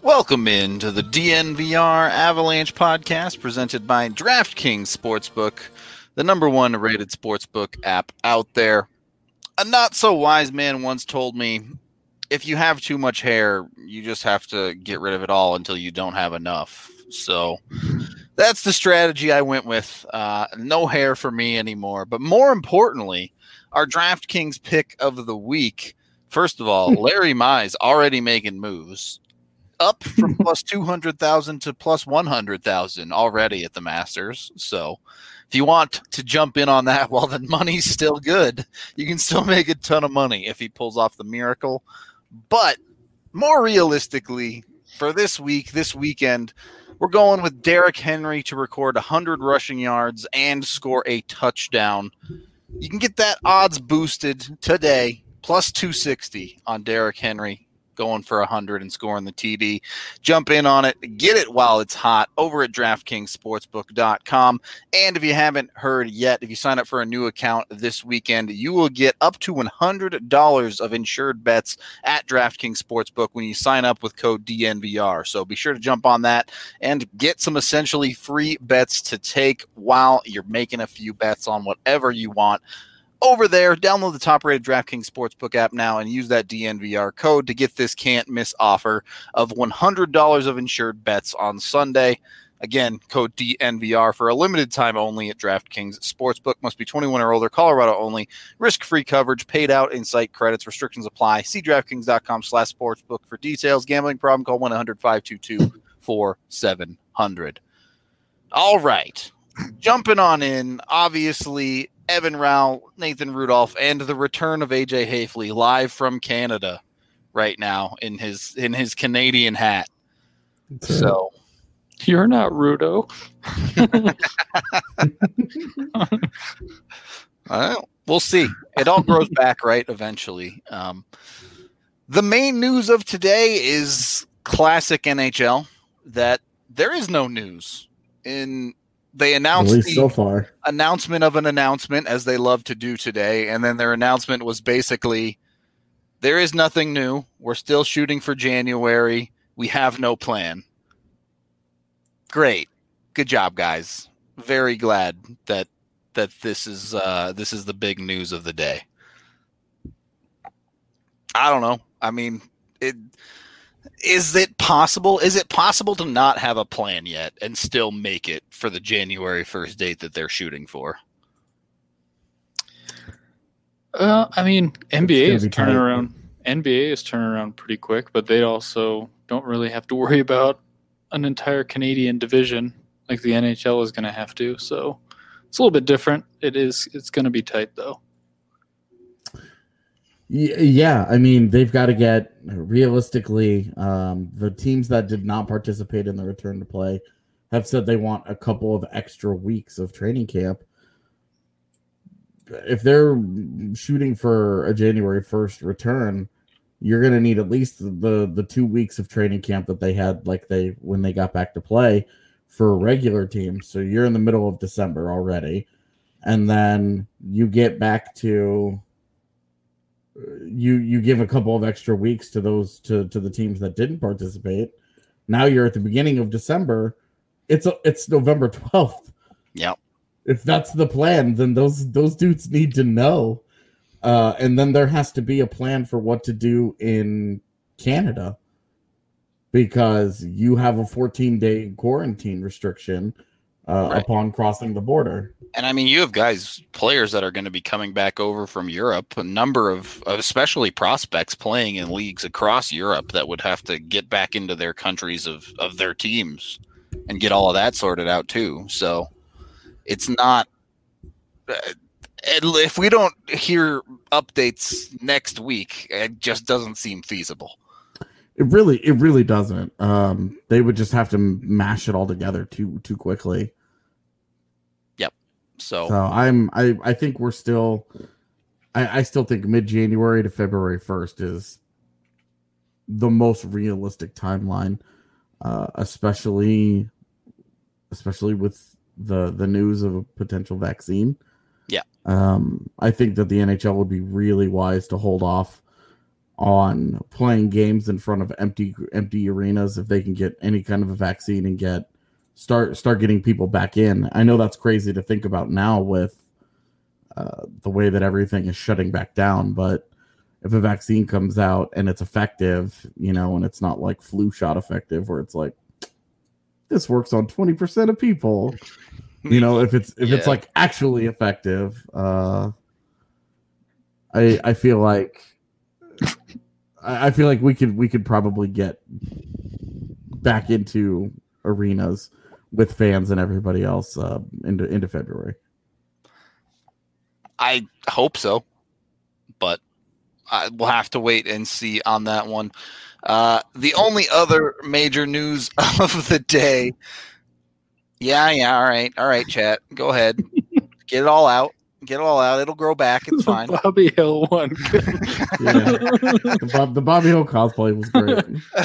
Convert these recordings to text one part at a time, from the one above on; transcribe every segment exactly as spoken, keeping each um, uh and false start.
Welcome in to the D N V R Avalanche podcast presented by DraftKings Sportsbook, the number one rated sportsbook app out there. A not-so-wise man once told me, if you have too much hair, you just have to get rid of it all until you don't have enough. So that's the strategy I went with. Uh, no hair for me anymore. But more importantly, our DraftKings pick of the week. First of all, Larry Mize already making moves. Up from plus two hundred thousand to plus one hundred thousand already at the Masters. So if you want to jump in on that while the money's still good, you can still make a ton of money if he pulls off the miracle. But more realistically, for this week, this weekend, we're going with Derrick Henry to record one hundred rushing yards and score a touchdown. You can get that odds boosted today, plus two sixty on Derrick Henry going for one hundred and scoring the T D. Jump in on it. Get it while it's hot over at DraftKings Sportsbook dot com. And if you haven't heard yet, if you sign up for a new account this weekend, you will get up to one hundred dollars of insured bets at DraftKings Sportsbook when you sign up with code D N V R. So be sure to jump on that and get some essentially free bets to take while you're making a few bets on whatever you want. Over there, download the top-rated DraftKings Sportsbook app now and use that D N V R code to get this can't-miss offer of one hundred dollars of insured bets on Sunday. Again, code D N V R for a limited time only at DraftKings Sportsbook. Must be twenty-one or older, Colorado only. Risk-free coverage, paid out in site credits. Restrictions apply. See DraftKings dot com slash sportsbook for details. Gambling problem, call one eight hundred five two two four seven zero zero. All right. Jumping on in, obviously, Evan Rao, Nathan Rudolph, and the return of A J Hafley live from Canada right now in his in his Canadian hat. So you're not Rudo. Well, we'll see. It all grows back, right? Eventually. Um, the main news of today is classic N H L that there is no news in. They announced At least the so far. announcement of an announcement, as they love to do today, and then their announcement was basically, there is nothing new. We're still shooting for January. We have no plan. Great. Good job, guys. Very glad that that this is uh, this is the big news of the day. I don't know. I mean, it Is it possible? Is it possible to not have a plan yet and still make it for the January first date that they're shooting for? Uh, I mean, N B A is turning tight. around. N B A is turning around pretty quick, but they also don't really have to worry about an entire Canadian division like the N H L is going to have to. So it's a little bit different. It is. It's going to be tight, though. Yeah, I mean, they've got to get realistically, um, the teams that did not participate in the return to play have said they want a couple of extra weeks of training camp. If they're shooting for a January first return, you're going to need at least the, the two weeks of training camp that they had like they when they got back to play for a regular team. So you're in the middle of December already. And then you get back to... You you give a couple of extra weeks to those to, to the teams that didn't participate. Now you're at the beginning of December. It's a, it's November twelfth. Yep. If that's the plan, then those those dudes need to know. Uh, and then there has to be a plan for what to do in Canada because you have a fourteen-day quarantine restriction uh, right. upon crossing the border. And I mean, you have guys, players that are going to be coming back over from Europe, a number of, especially prospects playing in leagues across Europe that would have to get back into their countries of, of their teams and get all of that sorted out too. So it's not, uh, if we don't hear updates next week, it just doesn't seem feasible. It really, it really doesn't. Um, they would just have to mash it all together too, too quickly. So, so I'm I, I think we're still I, I still think mid-January to February first is the most realistic timeline, uh, especially especially with the the news of a potential vaccine. Yeah. Um, I think that the N H L would be really wise to hold off on playing games in front of empty empty arenas if they can get any kind of a vaccine and get start start getting people back in. I know that's crazy to think about now with uh, the way that everything is shutting back down, but if a vaccine comes out and it's effective, you know, and it's not like flu shot effective where it's like this works on twenty percent of people, you know, if it's if yeah. it's like actually effective, uh, I I feel like I feel like we could we could probably get back into arenas with fans and everybody else uh, into into February. I hope so, but I, we'll have to wait and see on that one. Uh, the only other major news of the day. Yeah, yeah, all right, all right, chat. Go ahead, get it all out. Get it all out. It'll grow back. It's fine. Bobby Hill one. yeah. the, Bob, the Bobby Hill cosplay was great.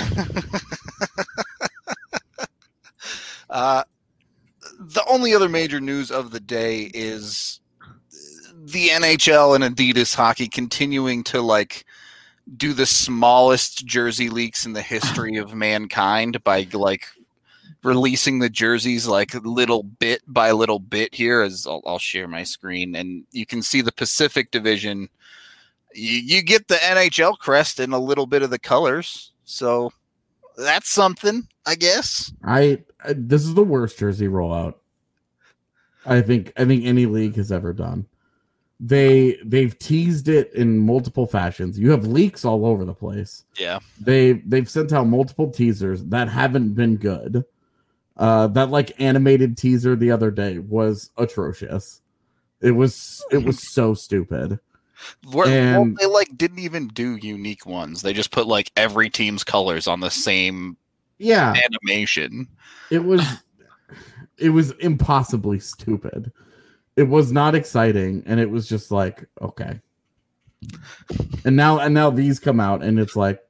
uh, the only other major news of the day is the N H L and Adidas hockey continuing to like do the smallest jersey leaks in the history of mankind by like releasing the jerseys like little bit by little bit here. As I'll, I'll share my screen and you can see the Pacific Division. You, you get the N H L crest and a little bit of the colors. So that's something, I guess. I, I this is the worst jersey rollout I think I think any league has ever done. They they've teased it in multiple fashions. You have leaks all over the place. Yeah. They they've sent out multiple teasers that haven't been good. Uh, that like animated teaser the other day was atrocious. It was it was so stupid. Where, and, well, they like didn't even do unique ones. They just put like every team's colors on the same yeah animation. It was it was impossibly stupid. It was not exciting, and it was just like okay. And now and now these come out, and it's like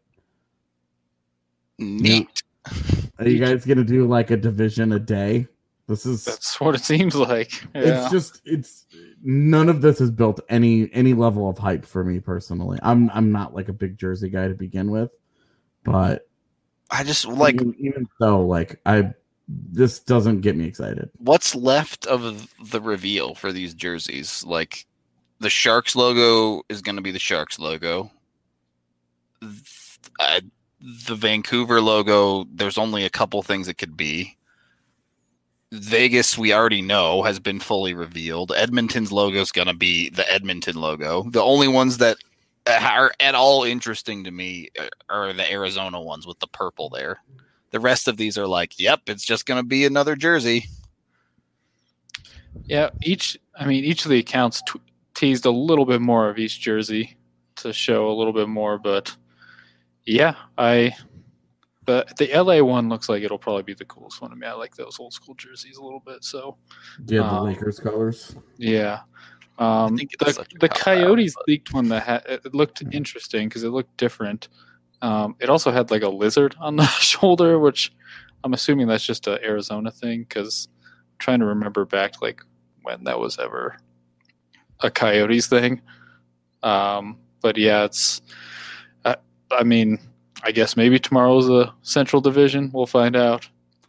neat. Are you guys gonna do like a division a day? This is that's what it seems like. Yeah. It's just it's none of this has built any any level of hype for me personally. I'm I'm not like a big jersey guy to begin with, but I just like even, even so like I this doesn't get me excited. What's left of the reveal for these jerseys? Like the Sharks logo is going to be the Sharks logo. Uh, the Vancouver logo, there's only a couple things it could be. Vegas, we already know, has been fully revealed. Edmonton's logo is going to be the Edmonton logo. The only ones that are at all interesting to me are the Arizona ones with the purple there. The rest of these are like, yep, it's just going to be another jersey. Yeah, each, I mean, each of the accounts t- teased a little bit more of each jersey to show a little bit more, but yeah, I, the the L A one looks like it'll probably be the coolest one. I mean, I like those old school jerseys a little bit. So, yeah, the um, Lakers colors. Yeah, um, the the Coyotes out, leaked one that had, it looked interesting because it looked different. Um, it also had like a lizard on the shoulder, which I'm assuming that's just an Arizona thing because I'm trying to remember back like when that was ever a Coyotes thing. Um, but yeah, it's. Uh, I mean. I guess maybe tomorrow's the Central Division. We'll find out.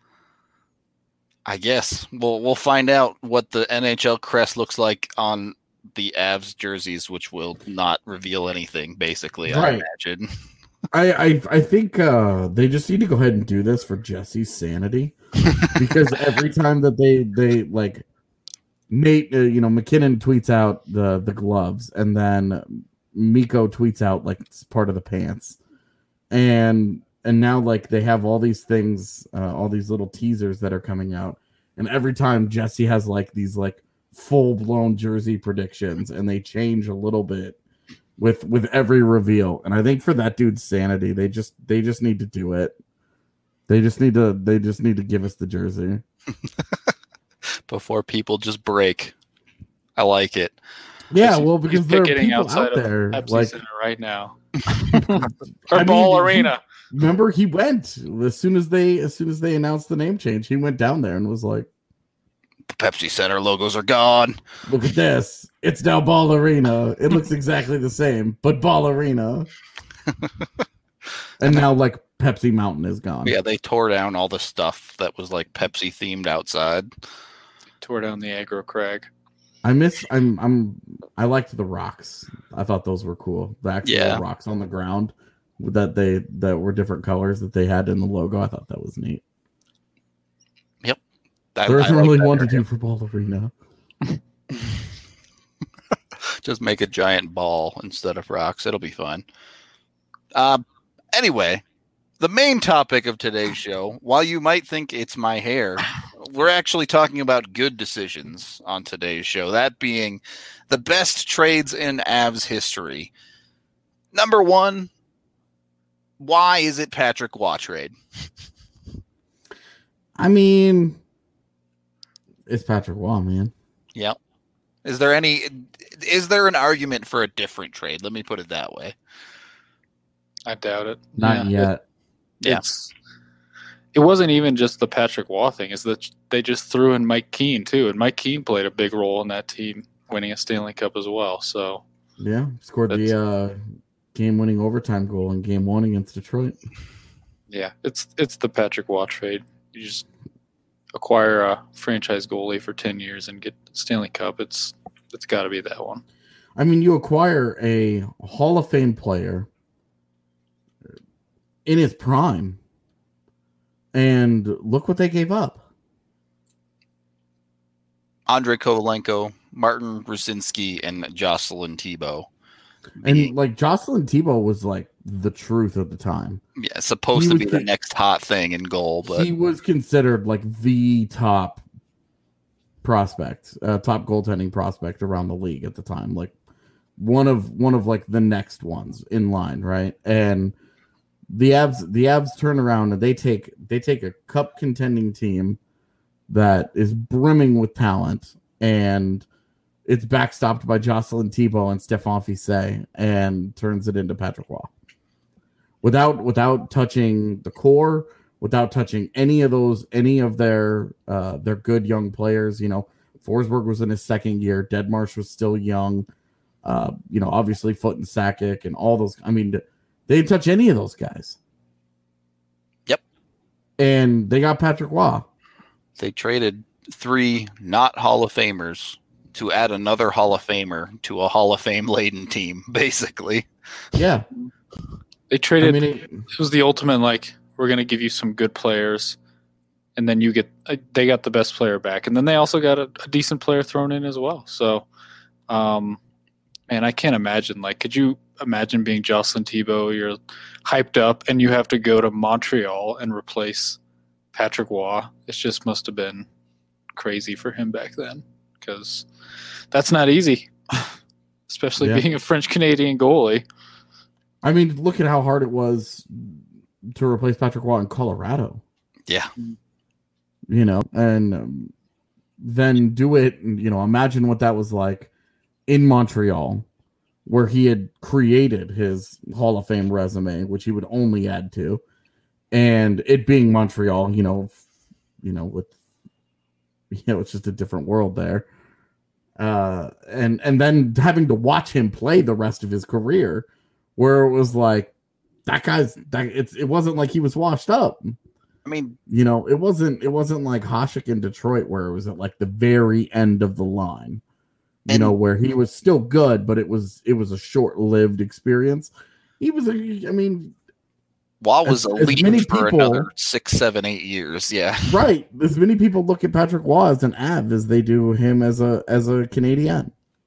I guess we'll we'll find out what the N H L crest looks like on the Avs jerseys, which will not reveal anything. Basically, right. I imagine. I I, I think uh, they just need to go ahead and do this for Jesse's sanity, because every time that they they like Nate, uh, you know, McKinnon tweets out the the gloves, and then Mikko tweets out like it's part of the pants. And and now like they have all these things, uh, all these little teasers that are coming out, and every time Jesse has like these like full blown jersey predictions, and they change a little bit with with every reveal. And I think for that dude's sanity, they just they just need to do it. They just need to they just need to give us the jersey before people just break. I like it. Yeah, well, because there are getting people outside out there of Pepsi like Center right now. or I Ball mean, Arena. He, remember, he went as soon as they as soon as they announced the name change. He went down there and was like, "Pepsi Center logos are gone. Look at this! It's now Ball Arena. It looks exactly the same, but Ball Arena." And now, like, Pepsi Mountain is gone. Yeah, they tore down all the stuff that was like Pepsi themed outside. Tore down the aggro crag. I miss. I'm. I'm. I liked the rocks. I thought those were cool. The actual Yeah. rocks on the ground that they that were different colors that they had in the logo. I thought that was neat. Yep. I, There isn't I like really that one to area. do for Ball Arena. Just make a giant ball instead of rocks. It'll be fun. Uh, anyway, the main topic of today's show, while you might think it's my hair, we're actually talking about good decisions on today's show. That being the best trades in Avs history. Number one, why is it Patrick Waugh trade? I mean, it's Patrick Waugh, man. Yep. Is there any? Is there an argument for a different trade? Let me put it that way. I doubt it. Not Yeah. yet. Yeah. It's it wasn't even just the Patrick Waugh thing. Is that they just threw in Mike Keane too, and Mike Keane played a big role in that team winning a Stanley Cup as well. So Yeah, scored the uh, game-winning overtime goal in Game One against Detroit. yeah, it's it's the Patrick Waugh trade. You just acquire a franchise goalie for ten years and get Stanley Cup. It's it's got to be that one. I mean, you acquire a Hall of Fame player in his prime, and look what they gave up. Andrei Kovalenko, Martin Rusinski, and Jocelyn Thibault. And like Jocelyn Thibault was like the truth at the time. Yeah, supposed He to was be the con- next hot thing in goal, but He was considered like the top prospect, uh, top goaltending prospect around the league at the time. Like one of one of like the next ones in line, right? And the Avs, the Avs turn around and they take they take a cup contending team that is brimming with talent, and it's backstopped by Jocelyn Thibault and Stephane Fissé, and turns it into Patrick Waugh. Without without touching the core, without touching any of those, any of their uh, their good young players. You know, Forsberg was in his second year. Deadmarsh was still young. Uh, you know, obviously Foot and Sakic and all those. I mean, they didn't touch any of those guys. Yep. And they got Patrick Waugh. they traded three not Hall of Famers to add another Hall of Famer to a Hall of Fame laden team, basically. Yeah. They traded. I mean, it, It was the ultimate, like, we're going to give you some good players, and then you get uh, they got the best player back, and then they also got a, a decent player thrown in as well. So, um, man, I can't imagine. Like, could you imagine being Jocelyn Thibault? You're hyped up, and you have to go to Montreal and replace Patrick Waugh. It just must have been crazy for him back then, because that's not easy, especially Yeah. being a French Canadian goalie. I mean, look at how hard it was to replace Patrick Waugh in Colorado. Yeah. You know, and um, then do it. You know, imagine what that was like in Montreal, where he had created his Hall of Fame resume, which he would only add to, and it being Montreal. You know, f- you know, with you know, it's just a different world there. Uh, and and then having to watch him play the rest of his career, where it was like that guy's that it's it wasn't like he was washed up. I mean, You know, it wasn't it wasn't like Hasek in Detroit where it was at like the very end of the line. You And- know, where he was still good, but it was it was a short-lived experience. He was a I mean, Waugh was As- a as lead many for people- another six, seven, eight years. Yeah. right. As many people look at Patrick Waugh as an Av as they do him as a as a Canadian.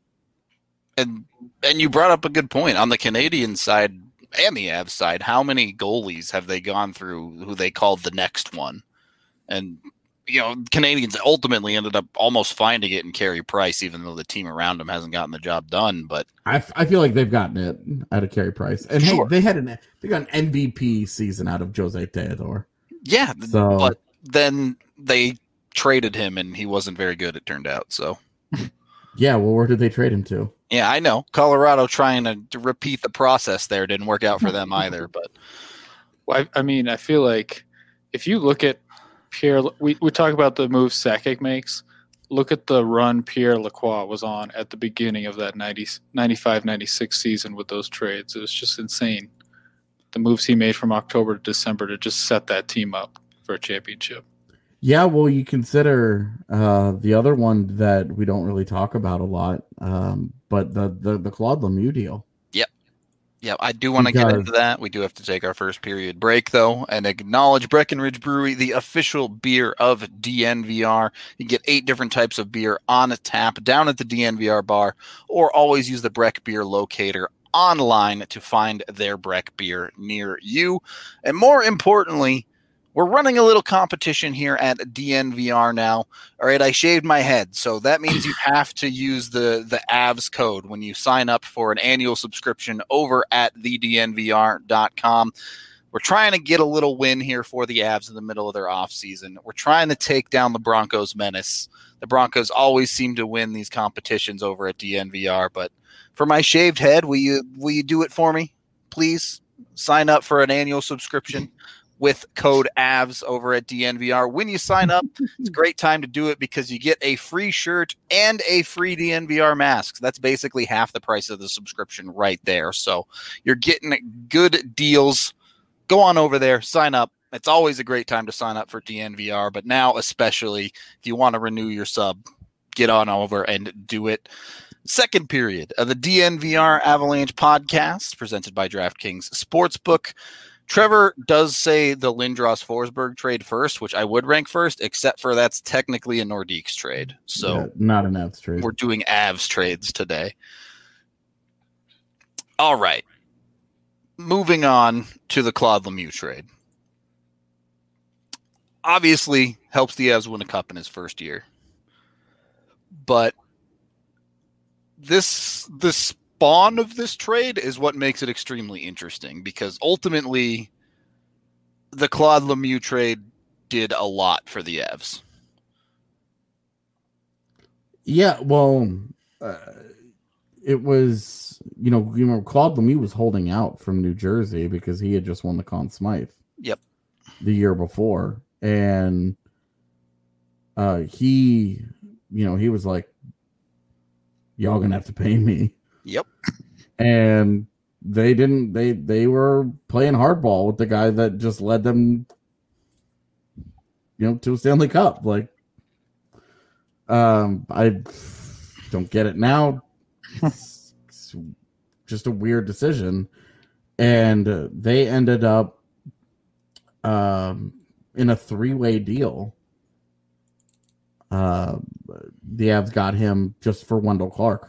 And and you brought up a good point on the Canadian side and the Avs side. How many goalies have they gone through who they called the next one? And you know, Canadians ultimately ended up almost finding it in Carey Price, even though the team around him hasn't gotten the job done. But I, I feel like they've gotten it out of Carey Price, and Sure. hey, they had an they got an M V P season out of Jose Theodore. yeah, So but then they traded him, and he wasn't very good. It turned out. So yeah, well, where did they trade him to? yeah, I know Colorado trying to, to repeat the process there didn't work out for them either. But Well, I, I mean, I feel like if you look at Pierre, we, we talk about the moves Sakic makes. Look at the run Pierre Lacroix was on at the beginning of that ninety, ninety-five ninety-six season with those trades. It was just insane. the moves he made from October to December to just set that team up for a championship. Yeah, well, you consider uh, the other one that we don't really talk about a lot, um, but the, the, the Claude Lemieux deal. Yep. Yep, I do want to get into that. We do have to take our first period break, though, and acknowledge Breckenridge Brewery, the official beer of D N V R. You can get eight different types of beer on a tap down at the D N V R bar, or always use the Breck Beer Locator online to find their Breck beer near you. And more importantly, we're running a little competition here at D N V R now. All right, I shaved my head, so that means you have to use the, the A V S code when you sign up for an annual subscription over at the D N V R dot com. We're trying to get a little win here for the Avs in the middle of their offseason. We're trying to take down the Broncos menace. The Broncos always seem to win these competitions over at D N V R, but for my shaved head, will you, will you do it for me, please? Sign up for an annual subscription with code A V S over at D N V R. When you sign up, it's a great time to do it because you get a free shirt and a free D N V R mask. That's basically half the price of the subscription right there. So you're getting good deals. Go on over there, sign up. It's always a great time to sign up for D N V R, but now especially if you want to renew your sub, get on over and do it. Second period of the D N V R Avalanche podcast presented by DraftKings Sportsbook. Trevor does say the Lindros-Forsberg trade first, which I would rank first, except for that's technically a Nordiques trade. So yeah, not an Avs trade. We're doing Avs trades today. All right. Moving on to the Claude Lemieux trade. Obviously, helps the Avs win a cup in his first year. But this this spawn of this trade is what makes it extremely interesting because ultimately the Claude Lemieux trade did a lot for the Avs. Yeah, well, uh, it was, you know, you know, Claude Lemieux was holding out from New Jersey because he had just won the Conn Smythe. Yep. The year before. And uh, he, you know, he was like, y'all gonna have to pay me. Yep. And they didn't they they were playing hardball with the guy that just led them, you know, to a Stanley Cup. Like um I don't get it now. It's, it's just a weird decision. And uh, they ended up um in a three-way deal. Uh the Avs got him just for Wendell Clark.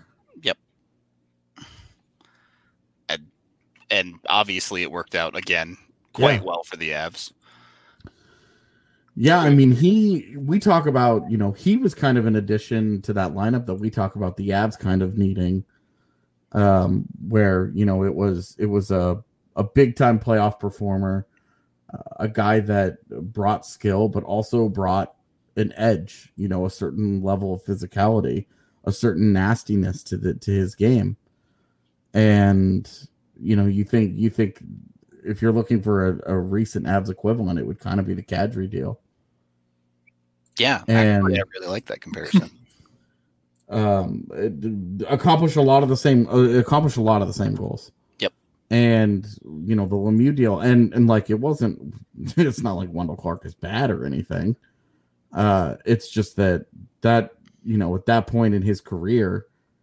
And obviously it worked out again quite yeah. well for the Avs. Yeah, I mean, he, we talk about, you know, he was kind of an addition to that lineup that we talk about the Avs kind of needing, um, where, you know, it was, it was a, a big time playoff performer, uh, a guy that brought skill, but also brought an edge, you know, a certain level of physicality, a certain nastiness to the, to his game. And, you know, you think you think if you're looking for a, a recent Avs equivalent, it would kind of be the Kadri deal. Yeah, and actually, I really like that comparison. um, it accomplished a lot of the same. Uh, accomplished a lot of the same goals. Yep. And you know the Lemieux deal, and and like it wasn't. It's not like Wendell Clark is bad or anything. Uh, it's just that that you know at that point in his career,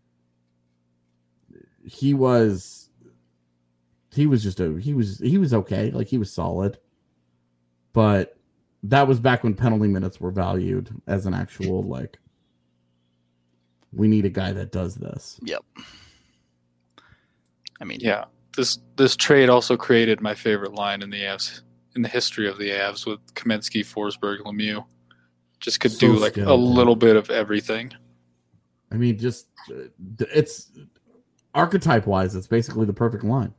he was. He was just a he was he was okay, like he was solid, but that was back when penalty minutes were valued as an actual like we need a guy that does this. Yep. I mean, yeah, this this trade also created my favorite line in the Avs in the history of the Avs with Kamensky, Forsberg, Lemieux. Just could So do like skilled, a little bit of everything. I mean, just it's archetype wise, it's basically the perfect line.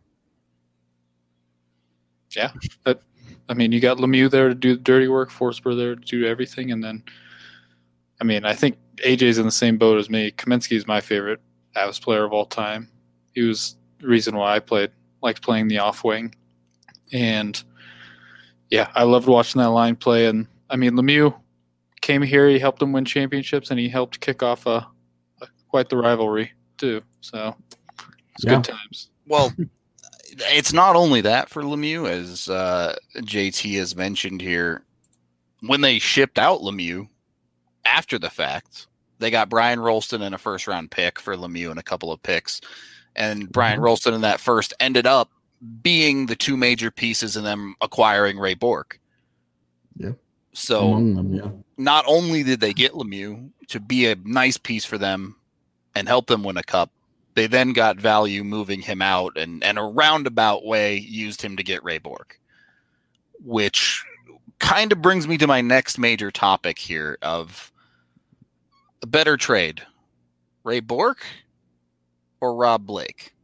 Yeah, but I mean, you got Lemieux there to do the dirty work, Forsberg there to do everything, and then, I mean, I think A J's in the same boat as me. Kamensky is my favorite Avs player of all time. He was the reason why I played, liked playing the off wing, and yeah, I loved watching that line play. And I mean, Lemieux came here, he helped them win championships, and he helped kick off a, a quite the rivalry too. So it's Yeah. good times. Well, it's not only that for Lemieux, as uh, J T has mentioned here. When they shipped out Lemieux after the fact, they got Brian Rolston and a first round pick for Lemieux and a couple of picks. And Brian mm-hmm. Rolston in that first ended up being the two major pieces in them acquiring Ray Bourque. Yeah. So them, yeah. not only did they get Lemieux to be a nice piece for them and help them win a cup, they then got value moving him out and, and a roundabout way used him to get Ray Bourque, which kind of brings me to my next major topic here of a better trade, Ray Bourque or Rob Blake?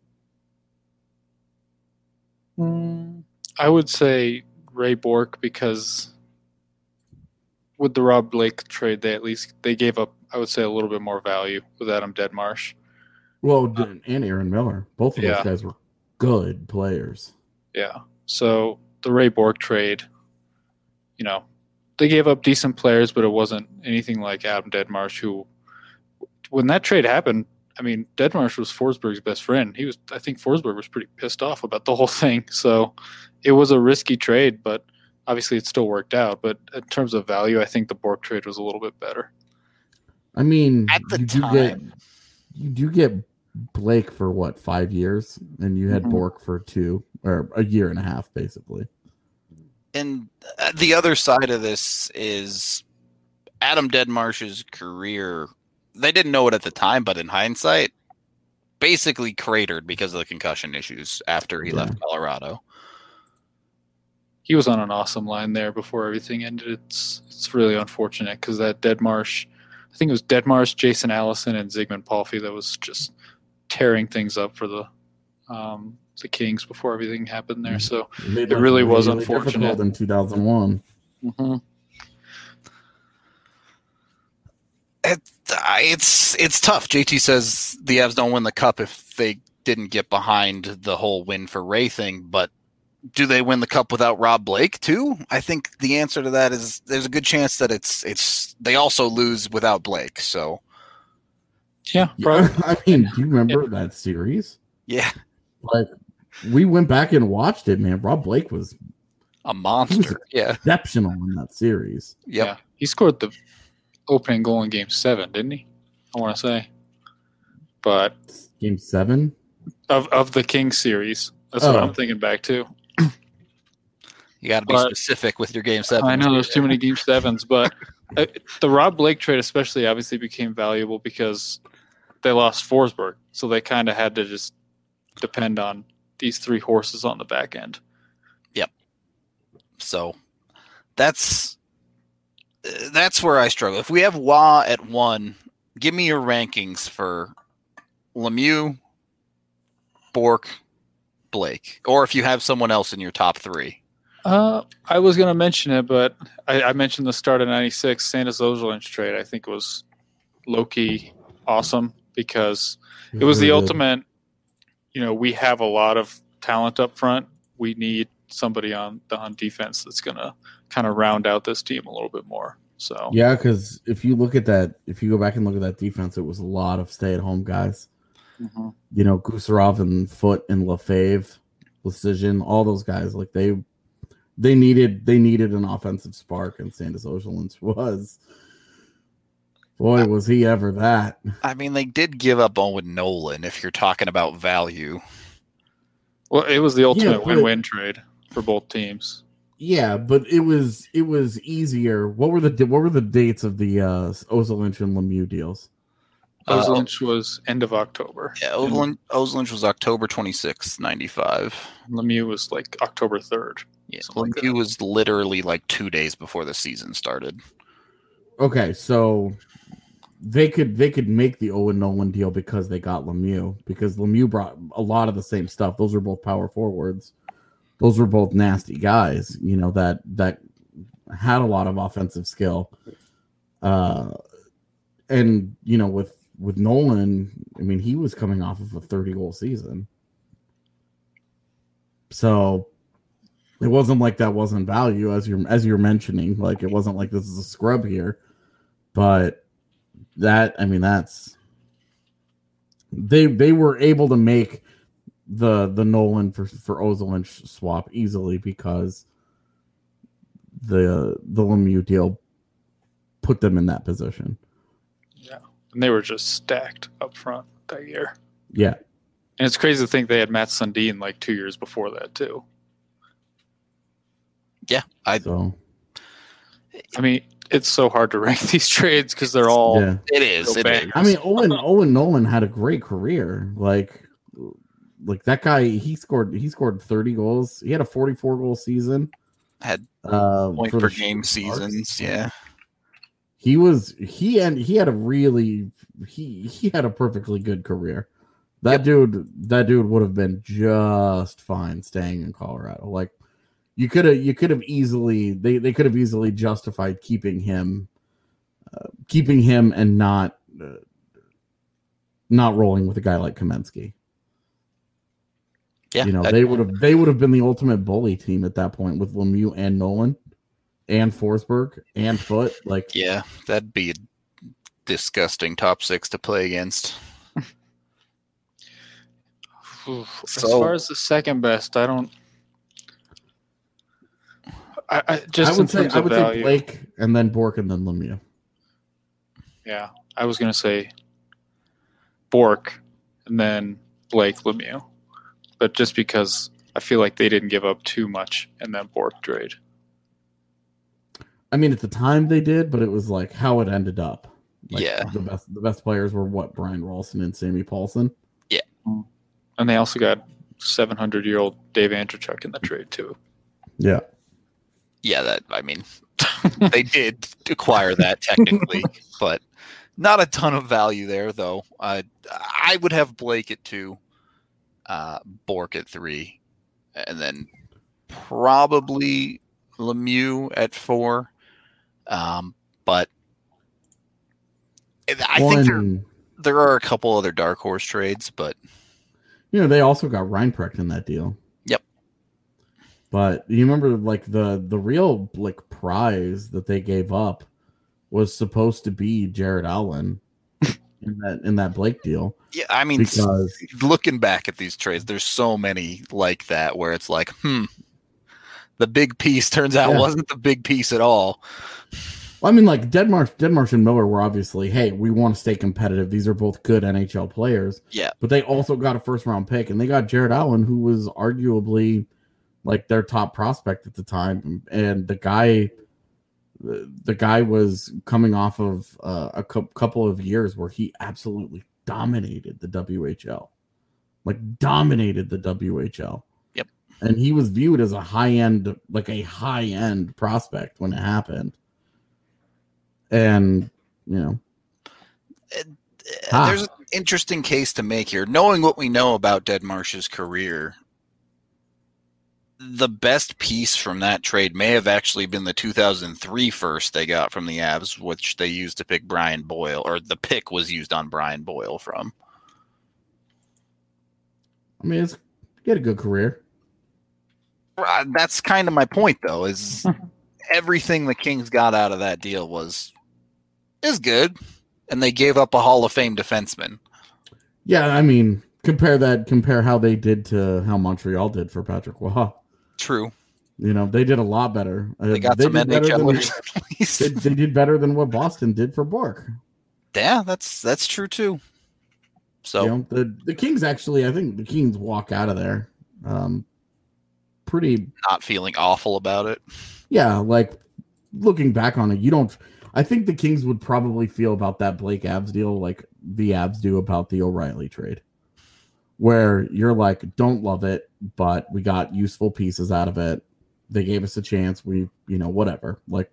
Mm, I would say Ray Bourque, because with the Rob Blake trade, they at least they gave up, I would say, a little bit more value with Adam Deadmarsh. Well, and Aaron Miller. Both of yeah. those guys were good players. Yeah. So the Ray Bourque trade, you know, they gave up decent players, but it wasn't anything like Adam Deadmarsh, who, when that trade happened, I mean, Deadmarsh was Forsberg's best friend. He was, I think Forsberg was pretty pissed off about the whole thing. So it was a risky trade, but obviously it still worked out. But in terms of value, I think the Bourque trade was a little bit better. I mean, at the you time, do get, you do get Blake for what, five years, and you had mm-hmm. Bourque for two or a year and a half, basically. And the other side of this is Adam Deadmarsh's career. They didn't know it at the time, but in hindsight, basically cratered because of the concussion issues after he yeah. left Colorado. He was on an awesome line there before everything ended. It's it's really unfortunate because that Deadmarsh, I think it was Deadmarsh, Jason Allison, and Zygmunt Palffy that was just tearing things up for the um, the Kings before everything happened there. So it, it really was really unfortunate. In two thousand one. Mm-hmm. It, it's it's tough. J T says the Avs don't win the cup if they didn't get behind the whole win for Ray thing, but do they win the cup without Rob Blake too? I think the answer to that is there's a good chance that it's it's they also lose without Blake. So yeah, yeah I mean, do you remember yeah. that series? Yeah, like we went back and watched it. Man, Rob Blake was a monster. Was yeah, exceptional in that series. Yep. Yeah, he scored the opening goal in Game Seven, didn't he? I want to say, but Game Seven of of the Kings series. That's oh. what I'm thinking back to. You got to be but, specific with your Game Seven. I know there's too many Game Sevens, but uh, the Rob Blake trade especially obviously became valuable because they lost Forsberg, so they kind of had to just depend on these three horses on the back end. Yep. So that's that's where I struggle. If we have Wah at one, give me your rankings for Lemieux, Bourque, Blake, or if you have someone else in your top three. Uh, I was going to mention it, but I, I mentioned the start of ninety-six Sandis Ozolinsh trade. I think was low-key awesome because it was the ultimate, you know, we have a lot of talent up front. We need somebody on the on defense that's going to kind of round out this team a little bit more. So yeah, because if you look at that, if you go back and look at that defense, it was a lot of stay-at-home guys. Mm-hmm. You know, Gusarov and Foote and Lefebvre, Precision, all those guys, like they they needed they needed an offensive spark, and Sandis Ozolinsh was. Boy, was he ever that. I mean, they did give up Owen Nolan, if you're talking about value. Well, it was the ultimate yeah, win-win it, trade for both teams. Yeah, but it was it was easier. What were the what were the dates of the uh, Ozolinsh and Lemieux deals? Ozolinsh uh, was end of October. Yeah, Ozolinsh, Ozolinsh was October twenty-sixth, ninety-five. Lemieux was like October third. Yeah, Lemieux like was literally like two days before the season started. Okay, so they could they could make the Owen Nolan deal because they got Lemieux, because Lemieux brought a lot of the same stuff. Those are both power forwards. Those were both nasty guys, you know, that that had a lot of offensive skill. Uh, and you know, with with Nolan, I mean, he was coming off of a thirty goal season, so it wasn't like that wasn't value, as you're as you're mentioning. Like, it wasn't like this is a scrub here, but that I mean, that's they they were able to make the the Nolan for for Ozil swap easily because the the Lemieux deal put them in that position. Yeah, and they were just stacked up front that year. Yeah, and it's crazy to think they had Matt Sundin like two years before that too. Yeah, I. So, I mean, it's so hard to rank these trades because they're all. Yeah. It is. It is. I mean, Owen Owen Nolan had a great career. Like, like that guy, he scored he scored thirty goals. He had a forty-four goal season. Had uh, point per game seasons. Yeah, he was he and he had a really he he had a perfectly good career. That yep. dude, that dude would have been just fine staying in Colorado. Like. You could have, you could have easily, they, they could have easily justified keeping him, uh, keeping him, and not, uh, not rolling with a guy like Kamensky. Yeah, you know, they would have, they would have been the ultimate bully team at that point with Lemieux and Nolan, and Forsberg and Foote. Like, yeah, that'd be a disgusting top six to play against. As so, far as the second best, I don't. I, I just I would say I would value, say Blake and then Bork and then Lemieux. Yeah, I was gonna say Bork and then Blake Lemieux, but just because I feel like they didn't give up too much in that Bork trade. I mean, at the time they did, but it was like how it ended up. Like, yeah, the best the best players were what Brian Rolston and Sammy Paulson. Yeah, and they also got seven hundred year old Dave Andreychuk in the trade too. Yeah. Yeah, that I mean, they did acquire that technically, but not a ton of value there, though. Uh, I would have Blake at two, uh, Bork at three, and then probably Lemieux at four. Um, but I One, think there, there are a couple other dark horse trades, but you know they also got Reinprecht in that deal. But you remember, like the the real like prize that they gave up was supposed to be Jared Allen in that in that Blake deal. Yeah, I mean, because looking back at these trades, there's so many like that where it's like, hmm, the big piece turns out yeah. wasn't the big piece at all. Well, I mean, like Deadmarsh, Deadmarsh and Miller were obviously, hey, we want to stay competitive. These are both good N H L players. Yeah, but they also got a first round pick, and they got Jared Allen, who was arguably like their top prospect at the time, and the guy, the guy was coming off of uh, a cu- couple of years where he absolutely dominated the W H L, like dominated the W H L. Yep, and he was viewed as a high end, like a high end prospect when it happened. And you know, uh, ah. there's an interesting case to make here, knowing what we know about Deadmarsh's career. The best piece from that trade may have actually been the two thousand three first they got from the Avs, which they used to pick Brian Boyle, or the pick was used on Brian Boyle from. I mean, it's, he had a good career. Uh, that's kind of my point, though, is everything the Kings got out of that deal was is good, and they gave up a Hall of Fame defenseman. Yeah, I mean, compare that, compare how they did to how Montreal did for Patrick Waugh. True. You know, they did a lot better. They got they some N H L than, they, they did better than what Boston did for Bork. Yeah, that's that's true too. So you know, the the Kings actually, I think the Kings walk out of there, um, pretty not feeling awful about it. Yeah, like looking back on it, you don't. I think the Kings would probably feel about that Blake Avs deal like the Avs do about the O'Reilly trade. Where you're like, don't love it, but we got useful pieces out of it. They gave us a chance. We, you know, whatever. Like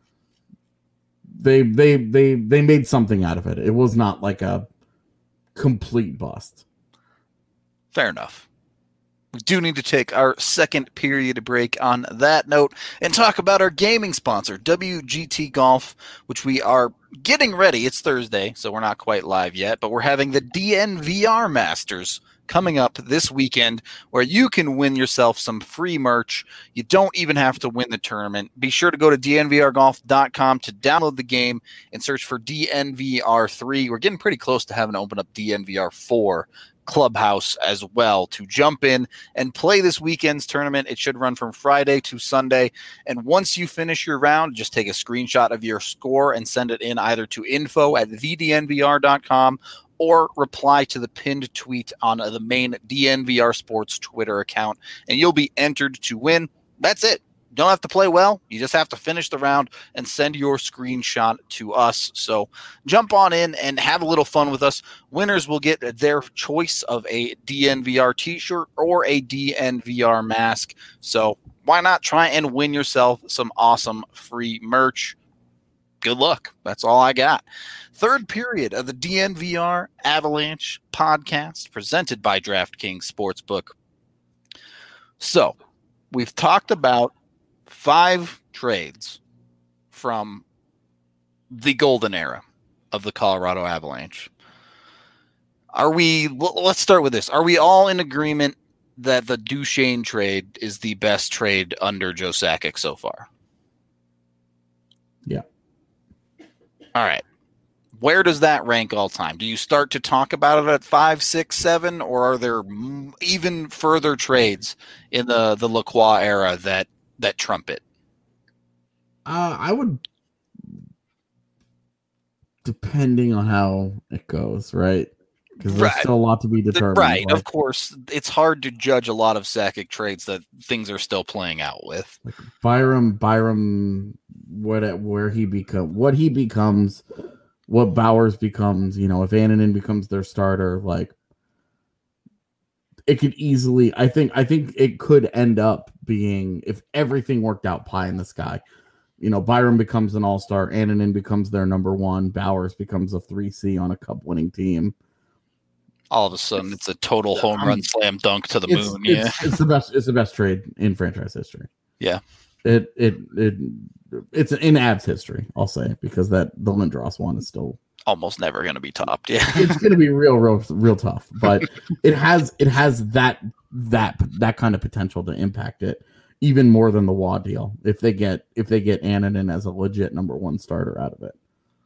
they, they, they, they made something out of it. It was not like a complete bust. Fair enough. We do need to take our second period break on that note and talk about our gaming sponsor, W G T Golf, which we are getting ready. It's Thursday, so we're not quite live yet, but we're having the D N V R Masters coming up this weekend where you can win yourself some free merch. You don't even have to win the tournament. Be sure to go to D N V R golf dot com to download the game and search for D N V R three. We're getting pretty close to having to open up D N V R four. Clubhouse as well to jump in and play this weekend's tournament. It should run from Friday to Sunday. And once you finish your round, just take a screenshot of your score and send it in either to info at v d n v r dot com or reply to the pinned tweet on the main D N V R Sports Twitter account, and you'll be entered to win. That's it. You don't have to play well. You just have to finish the round and send your screenshot to us. So jump on in and have a little fun with us. Winners will get their choice of a D N V R t-shirt or a D N V R mask. So why not try and win yourself some awesome free merch? Good luck. That's all I got. Third period of the D N V R Avalanche podcast presented by DraftKings Sportsbook. So we've talked about five trades from the golden era of the Colorado Avalanche. Are we, let's start with this. Are we all in agreement that the Duchesne trade is the best trade under Joe Sakic so far? Yeah. All right. Where does that rank all time? Do you start to talk about it at five, six, seven, or are there even further trades in the, the Lacroix era that, that trump it? Uh, I would, depending on how it goes, right? Because there's Right. still a lot to be determined. Right. Like, Of course, it's hard to judge a lot of Sakic trades that things are still playing out with. like Byram, Byram, what where he become, what he becomes, what Bowers becomes. You know, if Annunen becomes their starter, like it could easily. I think. I think it could end up being, if everything worked out, pie in the sky. You know, Byram becomes an all-star, Annunen becomes their number one, Bowers becomes a three C on a cup-winning team. All of a sudden, it's a total home I'm- run slam dunk to the It's, moon. Yeah. it's, it's the best. It's the best trade in franchise history. Yeah. It it it it's in Avs history. I'll say, because that the Lindros one is still Almost never going to be topped. Yeah. it's going to be real, real, real tough. But it has it has that that that kind of potential to impact it even more than the Waugh deal if they get if they get Annunen as a legit number one starter out of it.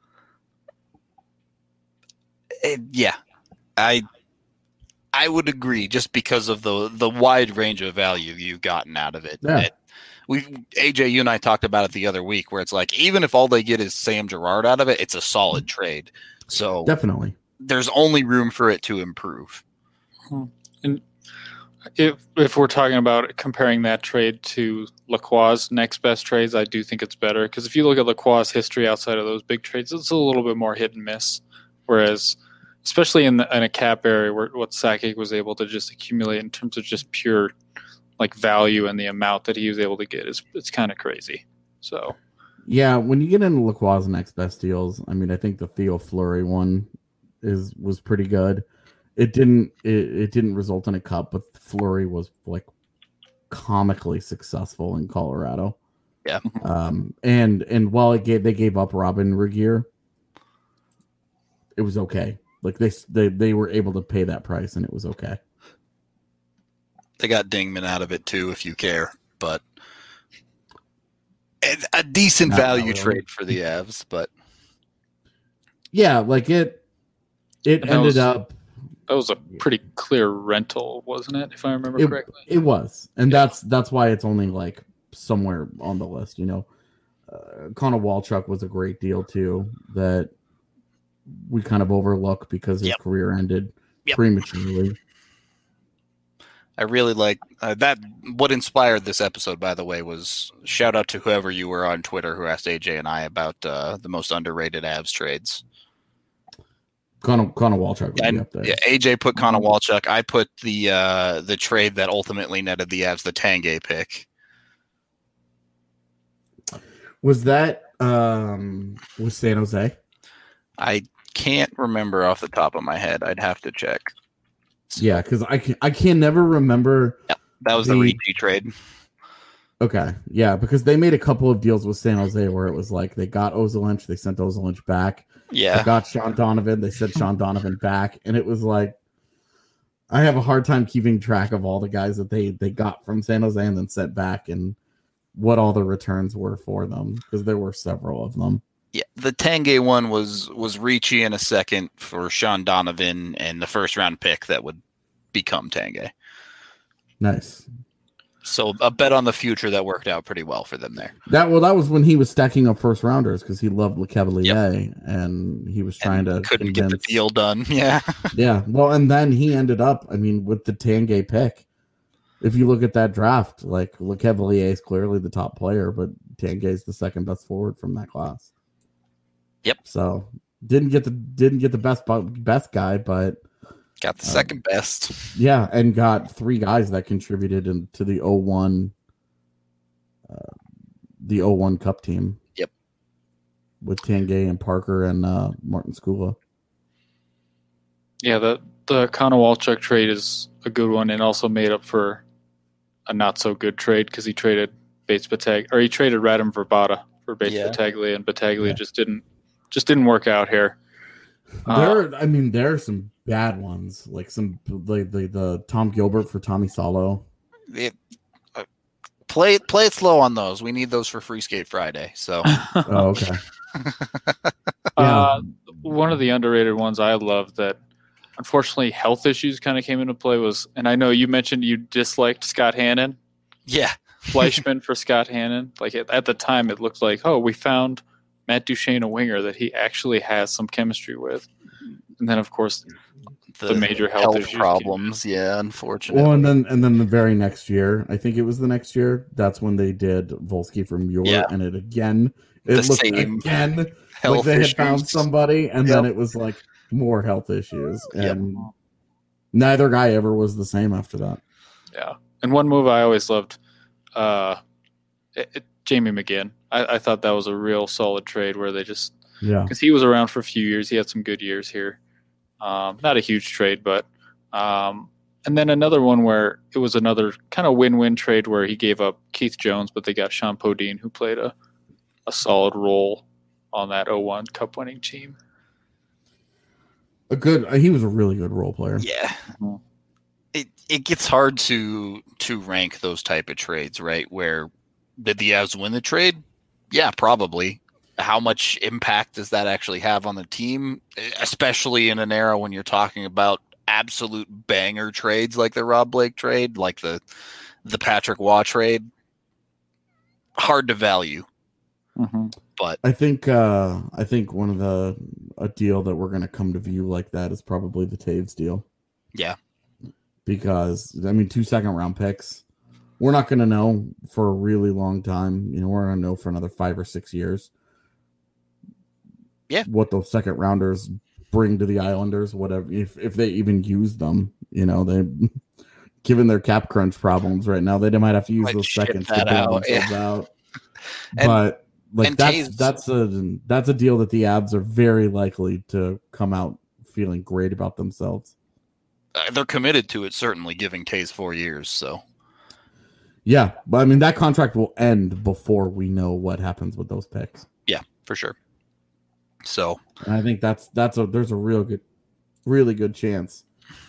It- yeah. I I would agree, just because of the the wide range of value you've gotten out of it. Yeah. It- we A J, you and I talked about it the other week, where it's like, even if all they get is Sam Girard out of it, it's a solid trade. So Definitely. there's only room for it to improve. And if if we're talking about comparing that trade to Lacroix's next best trades, I do think it's better, because if you look at Lacroix's history outside of those big trades, it's a little bit more hit and miss. Whereas, especially in, the, in a cap area where what Sakic was able to just accumulate in terms of just pure like value and the amount that he was able to get is it's kind of crazy. So Yeah, when you get into Lacroix's next best deals, I mean, I think the Theo Fleury one is was pretty good. It didn't it, it didn't result in a cup, but Fleury was like comically successful in Colorado. Yeah. Um, and and while it gave they gave up Robin Regier, it was okay. Like they they they were able to pay that price, and it was okay. They got Dingman out of it too, if you care, but it's a decent Not value really. trade for the Avs. But Yeah, like it it And that ended was- up that was a pretty clear rental, wasn't it? If I remember It- correctly. It was, and that's that's why it's only like somewhere on the list. You know, uh, Connor Walchuk was a great deal too that we kind of overlook because his Yep. career ended Yep. prematurely. I really like uh, that. What inspired this episode, by the way, was shout out to whoever you were on Twitter who asked A J and I about uh, the most underrated Avs trades. Connor Connor Walchuk would be And, up there. yeah, A J put Connor Walchuk. I put the uh, the trade that ultimately netted the Avs the Tanguay pick. Was that um was San Jose? I can't remember off the top of my head. I'd have to check. Yeah, because I can I can never remember. That was the, The- Ricci trade. Okay, yeah, because they made a couple of deals with San Jose where it was like they got Ozolinch, they sent Ozolinch back. They Yeah, got Sean Donovan, they sent Sean Donovan back, and it was like I have a hard time keeping track of all the guys that they they got from San Jose and then sent back and what all the returns were for them, because there were several of them. yeah. The Tanguay one was was Ricci in a second for Sean Donovan and the first round pick that would become Tanguay. Nice. So a bet on the future that worked out pretty well for them there. That well, that was when he was stacking up first rounders because he loved Le Cavalier, yep. and he was trying and to couldn't convince, get the deal done. Yeah, yeah. Well, and then he ended up. I mean, with the Tanguay pick, if you look at that draft, like Le Cavalier is clearly the top player, but Tanguay is the second best forward from that class. Yep. So didn't get the didn't get the best best guy, but. Got the second uh, best. Yeah, and got three guys that contributed into the oh one uh, the oh one Cup team. Yep. With Tanguay and Parker and uh, Martin Skula. Yeah, the, the Konowalchuk trade is a good one and also made up for a not-so-good trade because he traded Bates Batag or he traded Radim Verbata for Bates yeah. Battaglia, and Battaglia yeah. just didn't just didn't work out here. There, uh, I mean, there are some bad ones, like some like the, the Tom Gilbert for Tommy Salo. It, uh, play it, play it slow on those. We need those for Free Skate Friday. So, oh, okay. uh, one of the underrated ones I love that, unfortunately, health issues kind of came into play was, and I know you mentioned you disliked Scott Hannon. Yeah, Fleischman for Scott Hannon. Like at, at the time, it looked like, oh, we found Matt Duchesne, a winger that he actually has some chemistry with. And then, of course, the, the major health, health problems. Yeah, unfortunately. Well, and then and then the very next year, I think it was the next year, that's when they did Volsky from Muir, yeah. and it again, it the looked same again health like they issues. had found somebody, and yep. then it was like more health issues, and yep. neither guy ever was the same after that. Yeah, and one move I always loved, uh, it, it, Jamie McGinn. I, I thought that was a real solid trade where they just, yeah, because he was around for a few years. He had some good years here. Um, not a huge trade, but um, and then another one where it was another kind of win-win trade where he gave up Keith Jones, but they got Sean Podine, who played a, a solid role on that oh one Cup winning team. A good, he was a really good role player. Yeah, mm-hmm. it it gets hard to to rank those type of trades, right? Where did the Avs win the trade? Yeah, probably. How much impact does that actually have on the team, especially in an era when you're talking about absolute banger trades like the Rob Blake trade, like the the Patrick Waugh trade? Hard to value. Mm-hmm. But I think uh, I think one of the a deal that we're going to come to view like that is probably the Taves deal. Yeah, because I mean, two second round picks. We're not going to know for a really long time. You know, we're going to know for another five or six years. Yeah, what those second rounders bring to the Islanders, whatever, if if they even use them, you know, they given their cap crunch problems right now, they might have to use might those seconds to out. bail themselves Yeah. out. and, but like that's Taves, that's a that's a deal that the Avs are very likely to come out feeling great about themselves. Uh, they're committed to it, certainly, giving Taves four years. So yeah, but I mean that contract will end before we know what happens with those picks. Yeah, for sure. So and I think that's that's a there's a real good, really good chance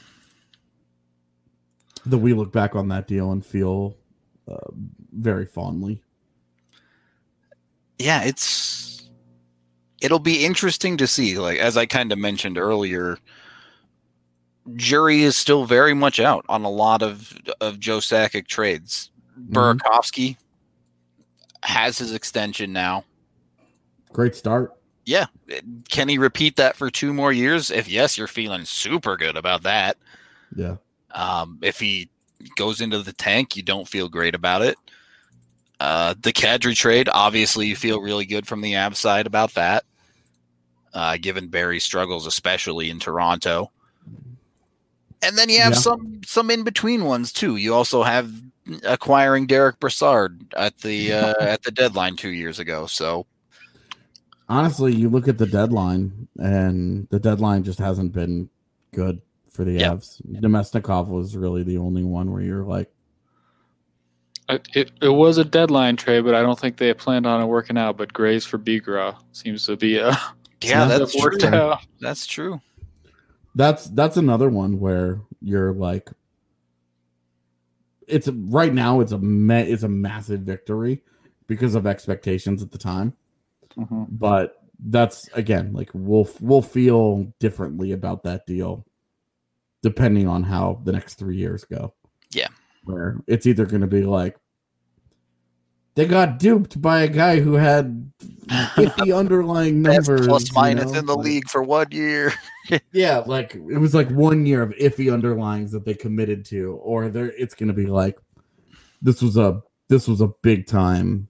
that we look back on that deal and feel uh, very fondly. Yeah, it's it'll be interesting to see. Like as I kind of mentioned earlier, jury is still very much out on a lot of of Joe Sakic trades. Mm-hmm. Burakovsky has his extension now. Great start. Yeah. Can he repeat that for two more years? If yes, you're feeling super good about that. Yeah. Um, if he goes into the tank, you don't feel great about it. Uh, the Kadri trade, obviously you feel really good from the Avs side about that, uh, given Barry's struggles, especially in Toronto. And then you have yeah. some some in-between ones, too. You also have acquiring Derek Brassard at the uh, at the deadline two years ago, so... Honestly, you look at the deadline, and the deadline just hasn't been good for the yep. Avs. Nemesnikov was really the only one where you're like... It, it was a deadline trade, but I don't think they planned on it working out. But Graves for Bigra seems to be a... Yeah, that's true. Out. That's true. That's that's another one where you're like... It's a, right now, it's a ma- it's a massive victory because of expectations at the time. Mm-hmm. But that's again like we'll we'll feel differently about that deal depending on how the next three years go. Yeah. Where it's either going to be like they got duped by a guy who had iffy underlying numbers. Plus minus you know? in the like, league for one year. Yeah, like it was like one year of iffy underlines that they committed to, or there it's going to be like this was a this was a big time.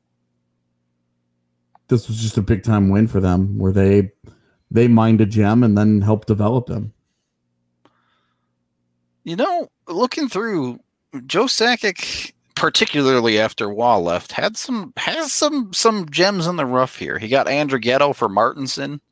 This was just a big time win for them, where they they mined a gem and then helped develop him. You know, looking through, Joe Sakic, particularly after Wall left, had some has some some gems in the rough here. He got Andrighetto for Martinson.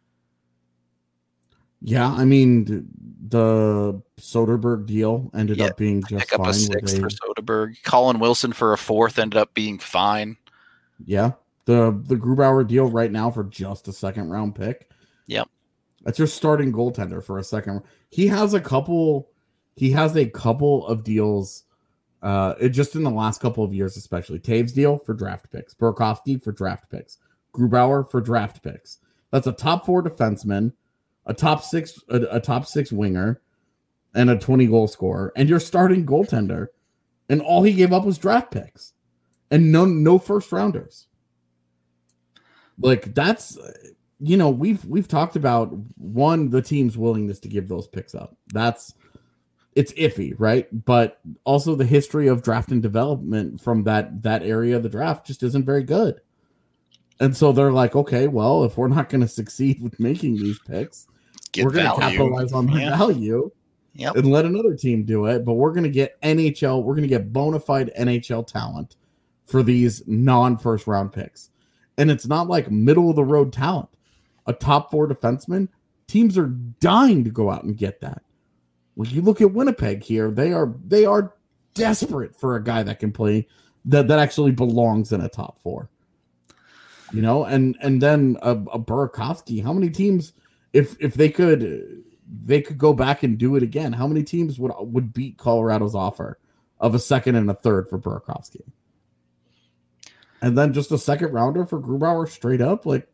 Yeah, I mean the Soderberg deal ended Yeah, up being just Pick up fine. a sixth they, for Soderberg. Colin Wilson for a fourth ended up being fine. Yeah, the the Grubauer deal right now for just a second round pick. Yep, that's your starting goaltender for a second. He has a couple. He has a couple of deals. Uh, it just in the last couple of years, especially Taves deal for draft picks, Burakovsky for draft picks, Grubauer for draft picks. That's a top four defenseman, a top six, a, a top six winger, and a twenty goal scorer, and your starting goaltender. And all he gave up was draft picks, and no no first rounders. Like that's, you know, we've we've talked about one the team's willingness to give those picks up. That's it's iffy, right? But also the history of draft and development from that that area of the draft just isn't very good. And so they're like, okay, well, if we're not going to succeed with making these picks, Get we're going to value. capitalize on the Yeah. value Yep. and let another team do it. But we're going to get N H L, we're going to get bona fide N H L talent for these non-first round picks. And it's not like middle of the road talent. A top four defenseman, teams are dying to go out and get that. When you look at Winnipeg here, they are they are desperate for a guy that can play that, that actually belongs in a top four. You know, and and then a, a Burakovsky. How many teams, if if they could they could go back and do it again, how many teams would would beat Colorado's offer of a second and a third for Burakovsky? And then just a second rounder for Grubauer straight up, like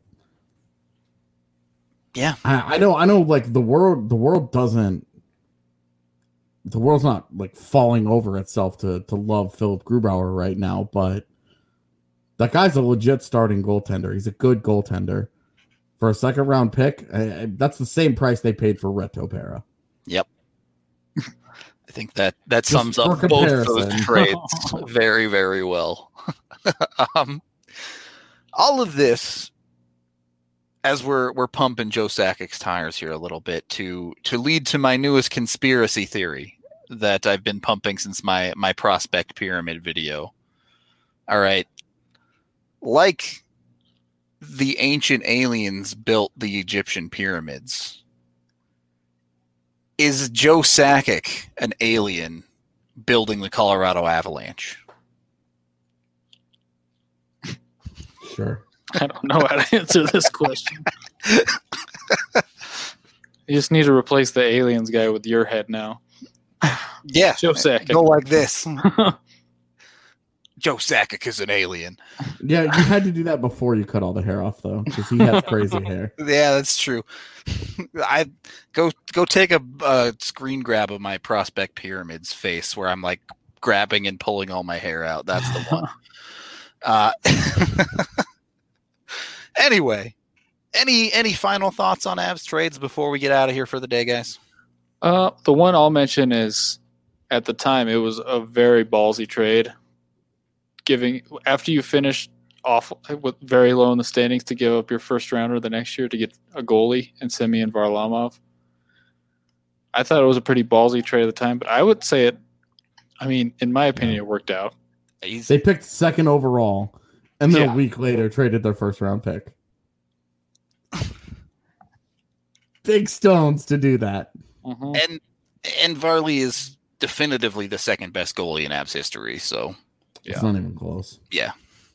Yeah. I, I know I know like the world the world doesn't the world's not like falling over itself to to love Philip Grubauer right now, but that guy's a legit starting goaltender. He's a good goaltender. For a second round pick, I, I, that's the same price they paid for Reto Pera. Yep. I think that that Just sums for up both comparison. those trades very, very well. um, all of this, as we're we're pumping Joe Sakic's tires here a little bit to to lead to my newest conspiracy theory that I've been pumping since my my prospect pyramid video. All right, like the ancient aliens built the Egyptian pyramids, is Joe Sakic an alien building the Colorado Avalanche? Sure. I don't know how to answer this question. You just need to replace the aliens guy with your head now. Yeah, Joe Sakic. go like this. Joe Sakic is an alien. Yeah, you had to do that before you cut all the hair off, though, because he has crazy hair. Yeah, that's true. I go go take a, a screen grab of my prospect pyramids face where I'm like grabbing and pulling all my hair out. That's the one. uh, anyway, any any final thoughts on Avs trades before we get out of here for the day, guys? Uh, the one I'll mention is, at the time, it was a very ballsy trade. Giving after you finish off with very low in the standings to give up your first rounder the next year to get a goalie and Semyon Varlamov. I thought it was a pretty ballsy trade at the time, but I would say it. I mean, in my opinion, it worked out. He's, They picked second overall, and then Yeah. a week later traded their first round pick. Big stones to do that. Mhm. and and Varley is definitively the second best goalie in Avs history. So It's Yeah. not even close. yeah.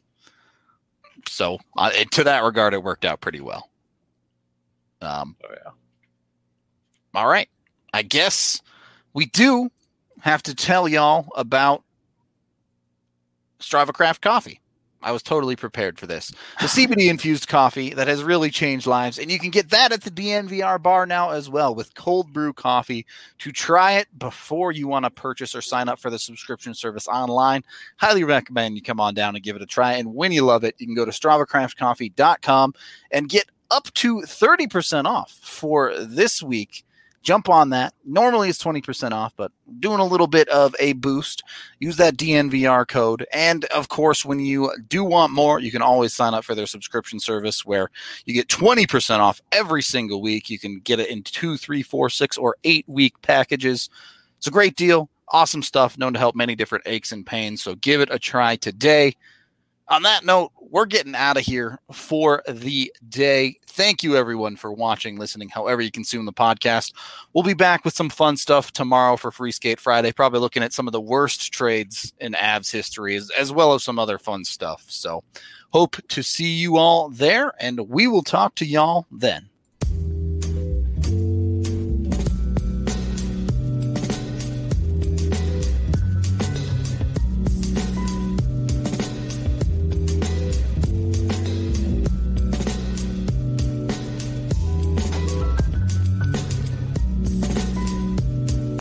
So uh, to that regard, it worked out pretty well. Um, Oh, yeah. All right. I guess we do have to tell y'all about Strava Craft Coffee. I was totally prepared for this. The C B D infused coffee that has really changed lives, and you can get that at the D N V R bar now as well with cold brew coffee. To try it before you want to purchase or sign up for the subscription service online, highly recommend you come on down and give it a try. And when you love it, you can go to strava craft coffee dot com and get up to thirty percent off for this week. Jump on that. Normally it's twenty percent off, but doing a little bit of a boost. Use that D N V R code. And of course, when you do want more, you can always sign up for their subscription service where you get twenty percent off every single week. You can get it in two, three, four, six, or eight week packages. It's a great deal. Awesome stuff, known to help many different aches and pains. So give it a try today. On that note, we're getting out of here for the day. Thank you, everyone, for watching, listening, however you consume the podcast. We'll be back with some fun stuff tomorrow for Free Skate Friday, probably looking at some of the worst trades in Avs history, as, as well as some other fun stuff. So hope to see you all there, and we will talk to y'all then.